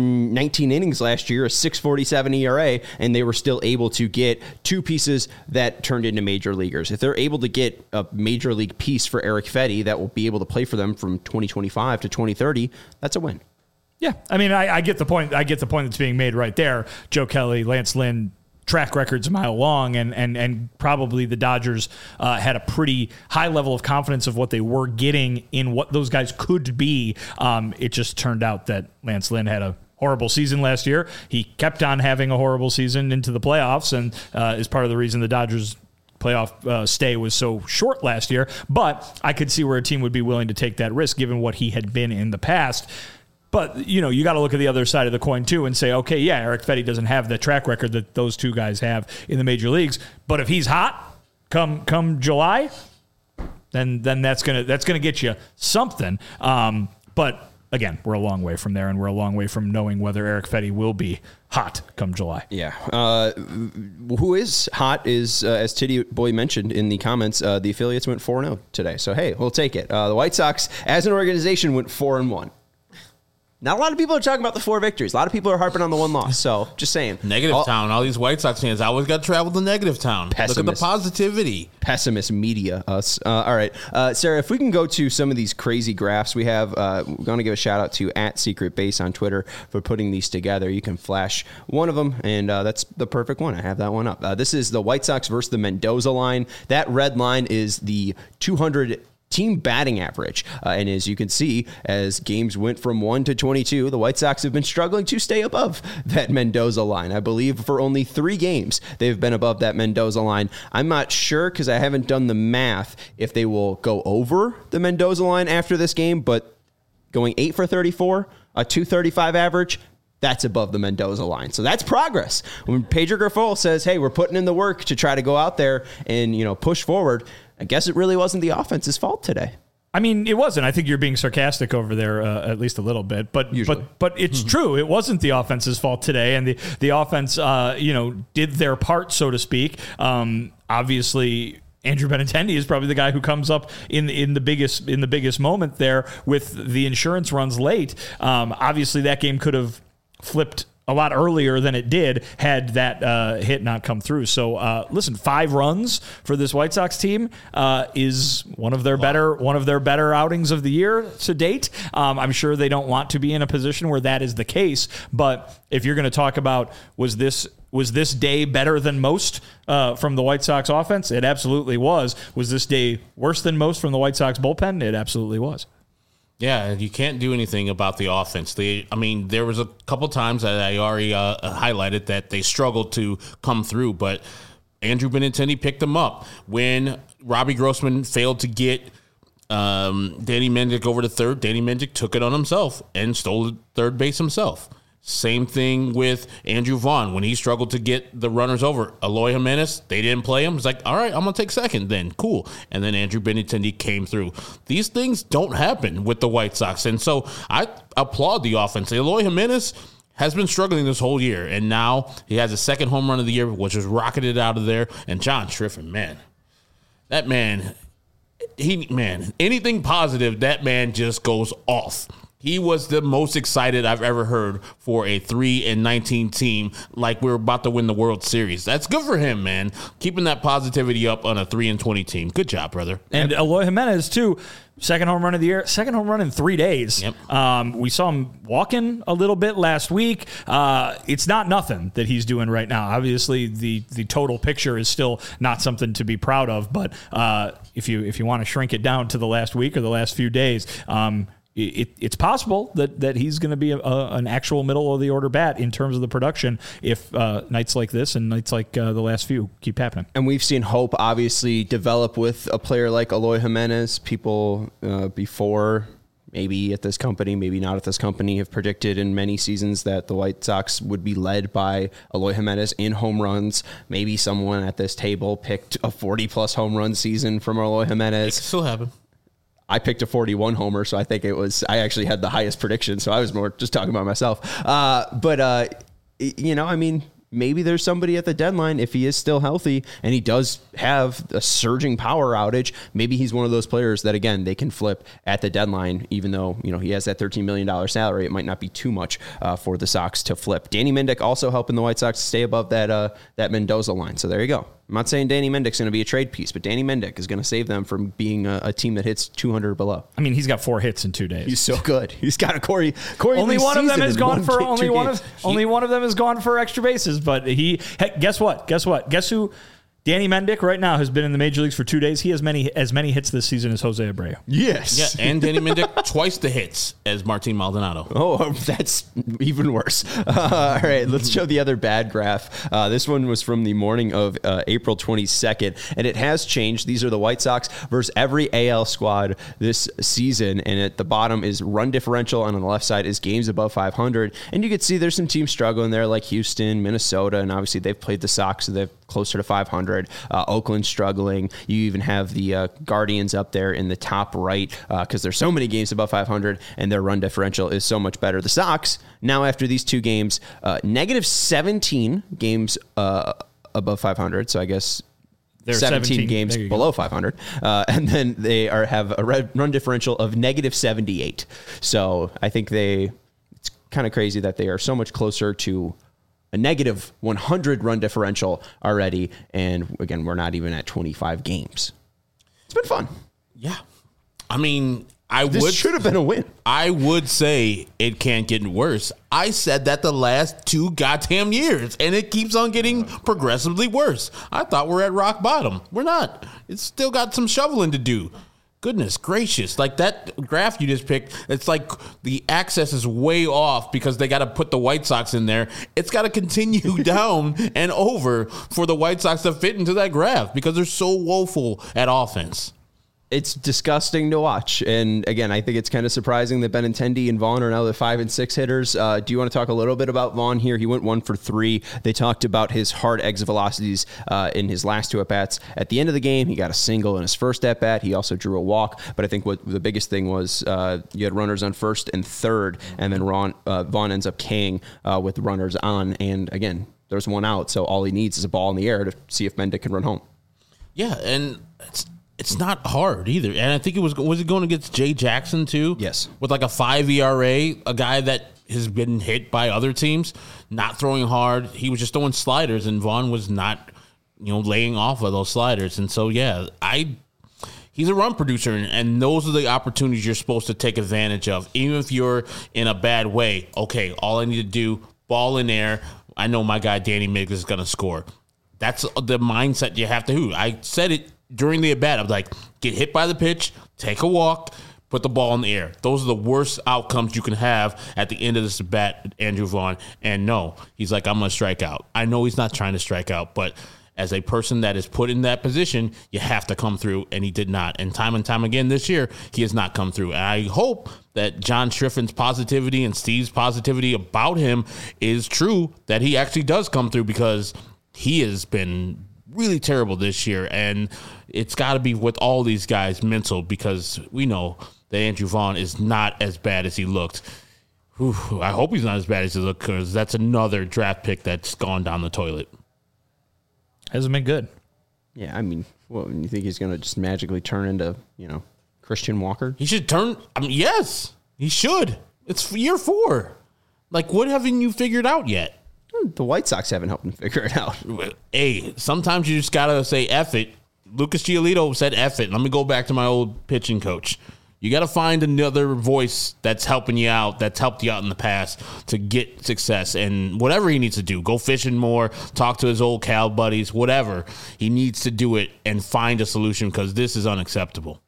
119 innings last year, a 6.47 ERA, and they were still able to get 2 pieces that turned into major leaguers. If they're able to get a major league piece for Erick Fedde that will be able to play for them from 2025 to 2030, that's a win. Yeah, I mean, I get the point. I get the point that's being made right there. Joe Kelly, Lance Lynn, track record's a mile long, and probably the Dodgers had a pretty high level of confidence of what they were getting in what those guys could be. It just turned out that Lance Lynn had a horrible season last year. He kept on having a horrible season into the playoffs, and is part of the reason the Dodgers playoff stay was so short last year. But I could see where a team would be willing to take that risk given what he had been in the past. But, you got to look at the other side of the coin, too, and say, okay, yeah, Erick Fedde doesn't have the track record that those 2 guys have in the major leagues. But if he's hot come July, then that's gonna get you something. But, again, we're a long way from there, and we're a long way from knowing whether Erick Fedde will be hot come July. Yeah. Who is hot is, as Titty Boy mentioned in the comments, the affiliates went 4-0 today. So, hey, we'll take it. The White Sox, as an organization, went 4-1. Not a lot of people are talking about the 4 victories. A lot of people are harping on the 1 loss. So, just saying. Negative town. All these White Sox fans always got to travel to negative town. Pessimist. Look at the positivity. Pessimist media, us. All right. Sarah, if we can go to some of these crazy graphs we have, we're going to give a shout out to @SecretBase on Twitter for putting these together. You can flash one of them, and that's the perfect one. I have that one up. This is the White Sox versus the Mendoza line. That red line is the 200 team batting average. And as you can see, as games went from 1 to 22, the White Sox have been struggling to stay above that Mendoza line. I believe for only 3 games, they've been above that Mendoza line. I'm not sure because I haven't done the math if they will go over the Mendoza line after this game, but going 8 for 34, a 235 average, that's above the Mendoza line. So that's progress. When Pedro Grifol says, hey, we're putting in the work to try to go out there and, push forward, I guess it really wasn't the offense's fault today. I mean, it wasn't. I think you're being sarcastic over there, at least a little bit. But it's true. It wasn't the offense's fault today, and the offense, did their part, so to speak. Obviously, Andrew Benintendi is probably the guy who comes up in the biggest moment there with the insurance runs late. Obviously, that game could have flipped a lot earlier than it did had that hit not come through. So listen, 5 runs for this White Sox team is one of their better outings of the year to date. I'm sure they don't want to be in a position where that is the case, but if you're going to talk about was this day better than most from the White Sox offense? It absolutely was. Was this day worse than most from the White Sox bullpen? It absolutely was. Yeah, you can't do anything about the offense. There was a couple times that I already highlighted that they struggled to come through, but Andrew Benintendi picked them up. When Robbie Grossman failed to get Danny Mendick over to third, Danny Mendick took it on himself and stole third base himself. Same thing with Andrew Vaughn. When he struggled to get the runners over, Eloy Jimenez, they didn't play him. It's like, all right, I'm going to take second then. Cool. And then Andrew Benintendi came through. These things don't happen with the White Sox. And so I applaud the offense. Eloy Jimenez has been struggling this whole year, and now he has a second home run of the year, which was rocketed out of there. And John Triffin, man, that man, anything positive, that man just goes off. He was the most excited I've ever heard for a 3-19 team, like we're about to win the World Series. That's good for him, man. Keeping that positivity up on a 3-20 team. Good job, brother. And Eloy Jimenez, too. Second home run of the year. Second home run in 3 days. Yep. We saw him walking a little bit last week. It's not nothing that he's doing right now. Obviously, the total picture is still not something to be proud of. But if you want to shrink it down to the last week or the last few days, it's possible that he's going to be an actual middle of the order bat in terms of the production if nights like this and nights like the last few keep happening. And we've seen hope obviously develop with a player like Eloy Jimenez. People before, maybe at this company, maybe not at this company, have predicted in many seasons that the White Sox would be led by Eloy Jimenez in home runs. Maybe someone at this table picked a 40-plus home run season from Eloy Jimenez. It can still happen. I picked a 41 homer, so I think I actually had the highest prediction, so I was more just talking about myself. Maybe there's somebody at the deadline, if he is still healthy and he does have a surging power outage, maybe he's one of those players that, again, they can flip at the deadline, even though, he has that $13 million salary. It might not be too much for the Sox to flip. Danny Mendick also helping the White Sox stay above that Mendoza line. So there you go. I'm not saying Danny Mendick's going to be a trade piece, but Danny Mendick is going to save them from being a team that hits 200 or below. I mean, he's got 4 hits in 2 days. He's so good. He's got a Corey. Only one of them has gone for one of them has gone for extra bases. But guess what? Guess who? Danny Mendick right now has been in the major leagues for 2 days. He has as many hits this season as Jose Abreu. Yes. Yeah, and Danny Mendick twice the hits as Martin Maldonado. Oh, that's even worse. All right, let's show the other bad graph. This one was from the morning of April 22nd, and it has changed. These are the White Sox versus every AL squad this season, and at the bottom is run differential, and on the left side is games above 500. And you can see there's some teams struggling there, like Houston, Minnesota, and obviously they've played the Sox, so they're closer to 500. Oakland struggling. You even have the Guardians up there in the top right because there's so many games above 500 and their run differential is so much better. The Sox, now after these 2 games, negative 17 games above 500. So I guess they're 17 games below 500. And then they have a run differential of negative 78. So I think it's kind of crazy that they are so much closer to a negative 100 run differential already. And again, we're not even at 25 games. It's been fun. Yeah. I mean, this should have been a win. I would say it can't get worse. I said that the last 2 goddamn years, and it keeps on getting progressively worse. I thought we're at rock bottom. We're not. It's still got some shoveling to do. Goodness gracious. Like that graph you just picked, it's like the access is way off because they got to put the White Sox in there. It's got to continue down and over for the White Sox to fit into that graph because they're so woeful at offense. It's disgusting to watch. And again, I think it's kind of surprising that Benintendi and Vaughn are now the 5 and 6 hitters. Do you want to talk a little bit about Vaughn here? He went 1 for 3. They talked about his hard exit velocities in his last 2 at-bats. At the end of the game, he got a single in his first at-bat. He also drew a walk. But I think what the biggest thing was you had runners on first and third, and then Vaughn ends up K'ing with runners on. And again, there's 1 out, so all he needs is a ball in the air to see if Mendick can run home. Yeah, and it's not hard either. And I think was it going against Jay Jackson too? Yes. With like a 5 ERA, a guy that has been hit by other teams, not throwing hard. He was just throwing sliders, and Vaughn was not, laying off of those sliders. And so, he's a run producer, and those are the opportunities you're supposed to take advantage of. Even if you're in a bad way, okay, all I need to do, ball in air. I know my guy Danny Miggs is going to score. That's the mindset you have to do. I said it during the at-bat. I'm like, get hit by the pitch, take a walk, put the ball in the air. Those are the worst outcomes you can have at the end of this at-bat, Andrew Vaughn. And no, he's like, I'm going to strike out. I know he's not trying to strike out, but as a person that is put in that position, you have to come through, and he did not. And time again this year, he has not come through. And I hope that John Striffin's positivity and Steve's positivity about him is true, that he actually does come through, because he has been really terrible this year. And it's got to be with all these guys mental, because we know that Andrew Vaughn is not as bad as he looked. Whew, I hope he's not as bad as he looked, because that's another draft pick that's gone down the toilet. Hasn't been good. Yeah, I mean, you think he's going to just magically turn into, Christian Walker? He should turn. Yes, he should. It's year 4. Like, what haven't you figured out yet? The White Sox haven't helped him figure it out. Hey, sometimes you just got to say F it. Lucas Giolito said F it. Let me go back to my old pitching coach. You got to find another voice that's helping you out, that's helped you out in the past to get success. And whatever he needs to do, go fishing more, talk to his old Cal buddies, whatever. He needs to do it and find a solution, because this is unacceptable.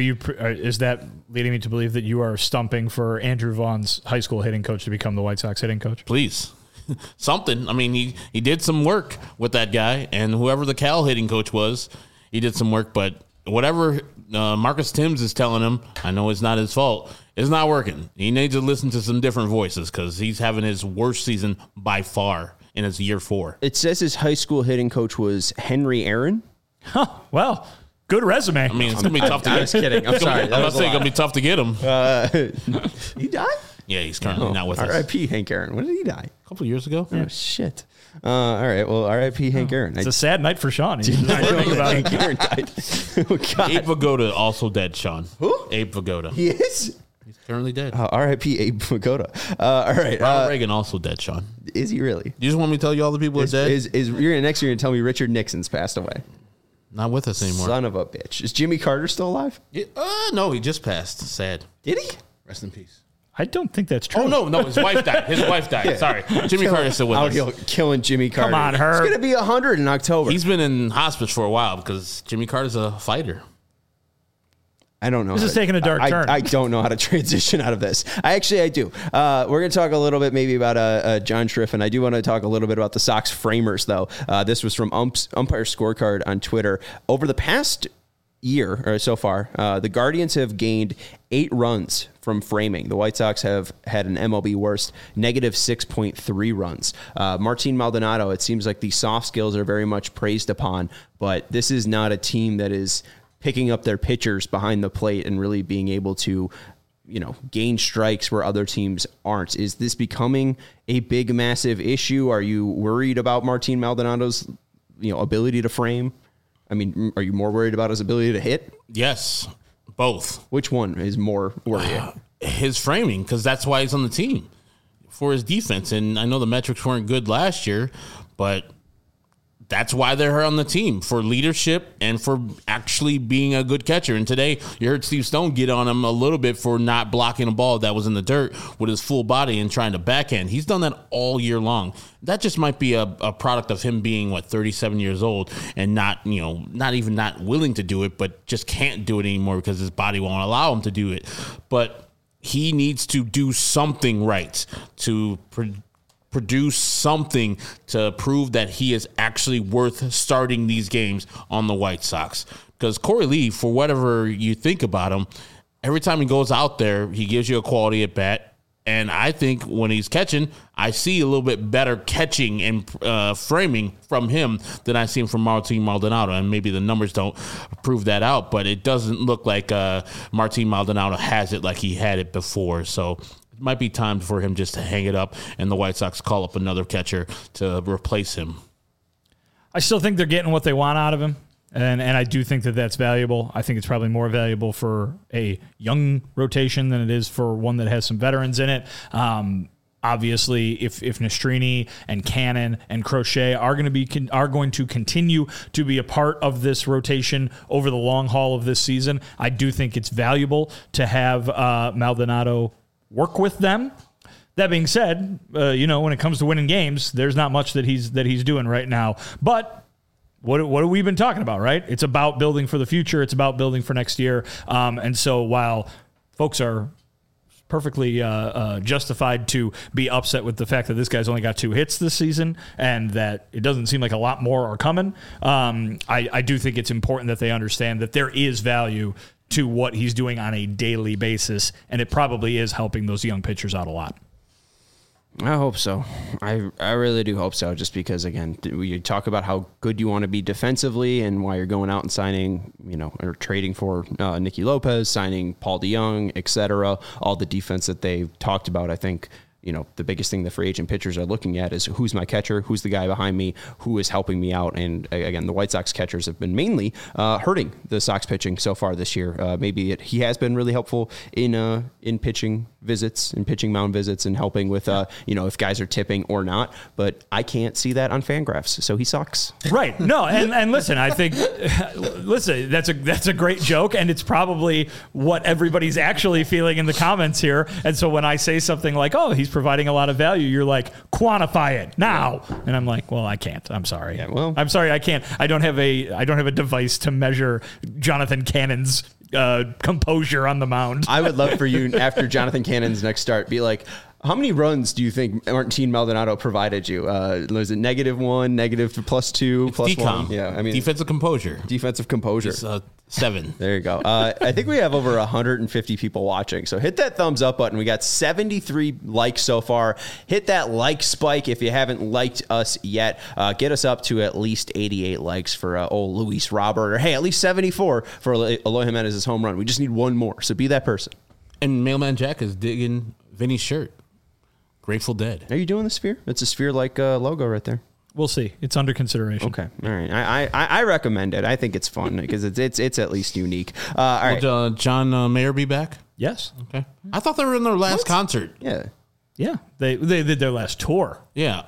Is that leading me to believe that you are stumping for Andrew Vaughn's high school hitting coach to become the White Sox hitting coach? Please. Something. I mean, he did some work with that guy, and whoever the Cal hitting coach was, he did some work, but whatever Marcus Timms is telling him, I know it's not his fault, it's not working. He needs to listen to some different voices, because he's having his worst season by far in his year 4. It says his high school hitting coach was Henry Aaron. Huh, well, good resume. I mean, it's going to be tough to get. I was kidding. I'm sorry. I'm not saying it's going to be tough to get him. He died? Yeah, he's currently not with us. R.I.P. Hank Aaron. When did he die? A couple of years ago. Oh, shit. All right. Well, R.I.P. Hank Aaron. It's a sad night for Sean. He's not learning about Hank Aaron died. Oh, God. Abe Vigoda also dead, Sean. Who? Abe Vigoda. He is? He's currently dead. R.I.P. Abe Vigoda. All right. Ronald Reagan also dead, Sean. Is he really? You just want me to tell you all the people that are dead? You're next year going to tell me Richard Nixon's passed away. Not with us anymore. Son of a bitch. Is Jimmy Carter still alive? Yeah, no, he just passed. Sad. Did he? Rest in peace. I don't think that's true. Oh, no, his wife died. His wife died. Yeah. Sorry. Jimmy Carter's still with us. Killing Jimmy Carter. Come on, Herb. He's going to be 100 in October. He's been in hospice for a while because Jimmy Carter's a fighter. I don't know. This is taking a dark turn. I don't know how to transition out of this. I do. We're going to talk a little bit maybe about John Striffen. I do want to talk a little bit about the Sox framers, though. This was from Umpire Scorecard on Twitter. Over the past year or so far, the Guardians have gained 8 runs from framing. The White Sox have had an MLB worst, negative 6.3 runs. Martin Maldonado, it seems like the soft skills are very much praised upon, but this is not a team that is picking up their pitchers behind the plate and really being able to, gain strikes where other teams aren't. Is this becoming a big, massive issue? Are you worried about Martin Maldonado's, ability to frame? I mean, are you more worried about his ability to hit? Yes, both. Which one is more worrying? His framing, because that's why he's on the team, for his defense. And I know the metrics weren't good last year, but that's why they're on the team, for leadership and for actually being a good catcher. And today, you heard Steve Stone get on him a little bit for not blocking a ball that was in the dirt with his full body and trying to backhand. He's done that all year long. That just might be a product of him being, 37 years old and not willing to do it, but just can't do it anymore because his body won't allow him to do it. But he needs to do something right to produce something to prove that he is actually worth starting these games on the White Sox. Because Corey Lee, for whatever you think about him, every time he goes out there, he gives you a quality at bat. And I think when he's catching, I see a little bit better catching and framing from him than I see from Martin Maldonado. And maybe the numbers don't prove that out, but it doesn't look like Martin Maldonado has it like he had it before. So it might be time for him just to hang it up and the White Sox call up another catcher to replace him. I still think they're getting what they want out of him. And I do think that that's valuable. I think it's probably more valuable for a young rotation than it is for one that has some veterans in it. Obviously, if Nastrini and Cannon and Crochet are going to continue to be a part of this rotation over the long haul of this season, I do think it's valuable to have Maldonado work with them. That being said, when it comes to winning games, there's not much that he's doing right now. But what have we been talking about, right? It's about building for the future. It's about building for next year. And so while folks are perfectly justified to be upset with the fact that this guy's only got 2 hits this season and that it doesn't seem like a lot more are coming, I do think it's important that they understand that there is value to what he's doing on a daily basis, and it probably is helping those young pitchers out a lot. I hope so. I really do hope so, just because, again, we talk about how good you want to be defensively and why you're going out and signing, or trading for Nicky Lopez, signing Paul DeJong, et cetera. All the defense that they've talked about, I think, the biggest thing the free agent pitchers are looking at is who's my catcher, who's the guy behind me, who is helping me out. And again, the White Sox catchers have been mainly hurting the Sox pitching so far this year. He has been really helpful in pitching visits and pitching mound visits and helping with, if guys are tipping or not. But I can't see that on Fangraphs, so he sucks. Right. No, and listen, I think, that's a great joke, and it's probably what everybody's actually feeling in the comments here. And so when I say something like, oh, he's providing a lot of value, you're like, quantify it now. And I'm like, well, I can't. I'm sorry. Yeah, well, I'm sorry, I can't. I don't have a device to measure Jonathan Cannon's composure on the mound. I would love for you, after Jonathan Cannon's next start, be like, how many runs do you think Martin Maldonado provided you? Was it -1, +2, +1? Yeah, I mean, defensive composure. Defensive composure. It's, 7. There you go. I think we have over 150 people watching. So hit that thumbs up button. We got 73 likes so far. Hit that like spike if you haven't liked us yet. Get us up to at least 88 likes for old Luis Robert. Or hey, at least 74 for Eloy Jimenez's home run. We just need one more. So be that person. And Mailman Jack is digging Vinny's shirt. Grateful Dead. Are you doing the sphere? It's a sphere-like logo right there. We'll see. It's under consideration. Okay. All right. I recommend it. I think it's fun because it's at least unique. All right. Will John Mayer be back? Yes. Okay. I thought they were in their last concert. Yeah. Yeah. They did their last tour. Yeah.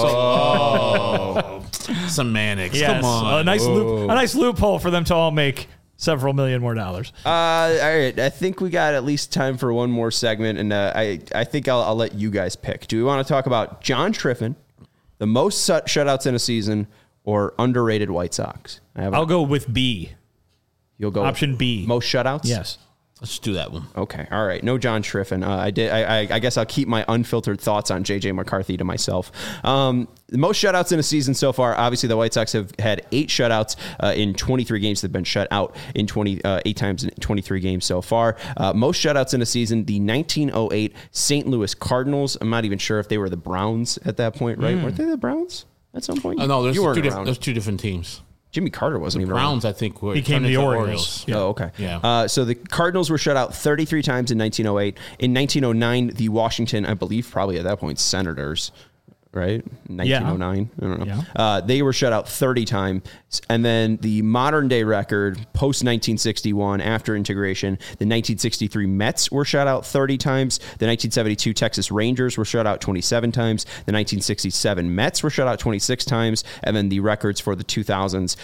Semantics. Yes. Come on. A nice loophole for them to all make several million more dollars. All right. I think we got at least time for one more segment, and I think I'll let you guys pick. Do we want to talk about John Triffin, the most shutouts in a season, or underrated White Sox? I'll go with B. You'll go option B. Most shutouts? Yes. Let's do that one. Okay. All right. No John Triffin. I guess I'll keep my unfiltered thoughts on J.J. McCarthy to myself. The most shutouts in a season so far. Obviously, the White Sox have had 8 shutouts in 23 games. They've been shut out in 8 times in 23 games so far. Most shutouts in a season. The 1908 St. Louis Cardinals. I'm not even sure if they were the Browns at that point, right? Weren't they the Browns at some point? Oh, no, there's two different teams. Jimmy Carter wasn't even Browns, I think, became the Orioles. Yeah. Oh, okay. Yeah. So the Cardinals were shut out 33 times in 1908. In 1909, the Washington, I believe, probably at that point, Senators, right? 1909. I don't know. Yeah. They were shut out 30 times. And then the modern day record, post 1961, after integration, the 1963 Mets were shut out 30 times. The 1972 Texas Rangers were shut out 27 times. The 1967 Mets were shut out 26 times. And then the records for the 2000s,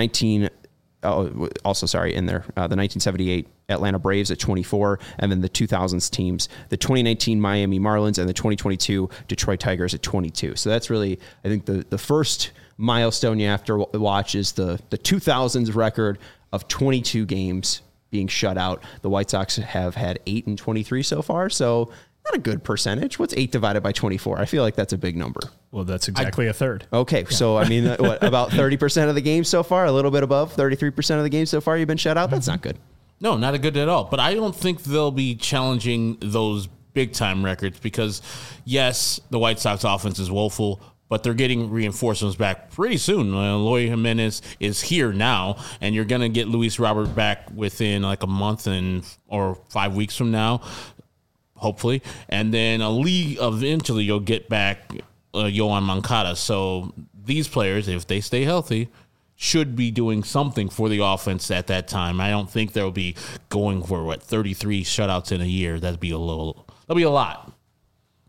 the 1978 Atlanta Braves at 24, and then the 2000s teams, the 2019 Miami Marlins and the 2022 Detroit Tigers at 22. So that's really, I think, the first milestone you have to watch is the 2000s record of 22 games being shut out. The White Sox have had 8 in 23 so far, so not a good percentage. What's 8 divided by 24? I feel like that's a big number. Well, that's exactly a third. Okay, so I mean, about 30% of the games so far, a little bit above 33% of the games so far you've been shut out? That's not good. No, not a good at all. But I don't think they'll be challenging those big-time records because, yes, the White Sox offense is woeful, but they're getting reinforcements back pretty soon. Eloy Jimenez is here now, and you're going to get Luis Robert back within like a month or 5 weeks from now, hopefully. And then eventually you'll get back Yoan Moncada. So these players, if they stay healthy, should be doing something for the offense at that time. I don't think they'll be going for 33 shutouts in a year. That'll be a lot.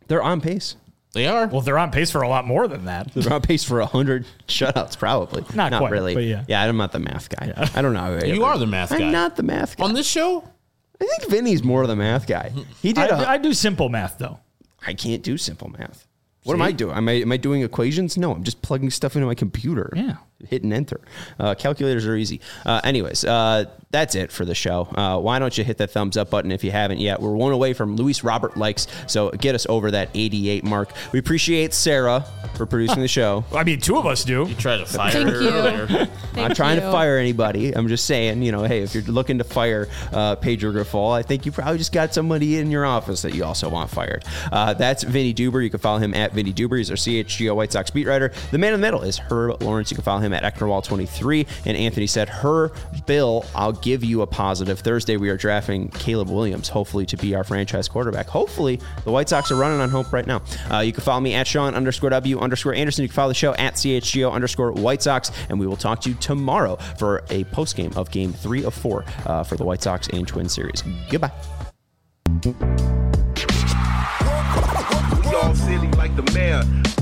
They're on pace. They are. Well, they're on pace for a lot more than that. They're on pace for 100 shutouts, probably. Not quite, really. but yeah. Yeah, I'm not the math guy. Yeah. I don't know. You are the math guy. I'm not the math guy. On this show? I think Vinny's more the math guy. He did. I do simple math, though. I can't do simple math. What am I doing? Am I doing equations? No, I'm just plugging stuff into my computer. Yeah. Hitting enter. Calculators are easy. Anyways, that's it for the show. Why don't you hit that thumbs up button if you haven't yet? We're one away from Luis Robert likes, so get us over that 88 mark. We appreciate Sarah for producing the show. I mean, two of us do. You tried to fire Thank her you. earlier. I'm not trying to fire anybody. I'm just saying, hey, if you're looking to fire Pedro Grifol, I think you probably just got somebody in your office that you also want fired. That's Vinny Duber. You can follow him at Vinny Duber. He's our CHGO White Sox beat writer. The man in the middle is Herb Lawrence. You can follow him at Ecknerwall23. And Anthony said, Bill, I'll give you a positive. Thursday, we are drafting Caleb Williams, hopefully to be our franchise quarterback. Hopefully, the White Sox are running on hope right now. You can follow me at Sean_W_Anderson. You can follow the show at CHGO_White Sox. And we will talk to you tomorrow for a postgame of Game 3 of 4 for the White Sox and Twins series. Goodbye. We all silly like the mayor.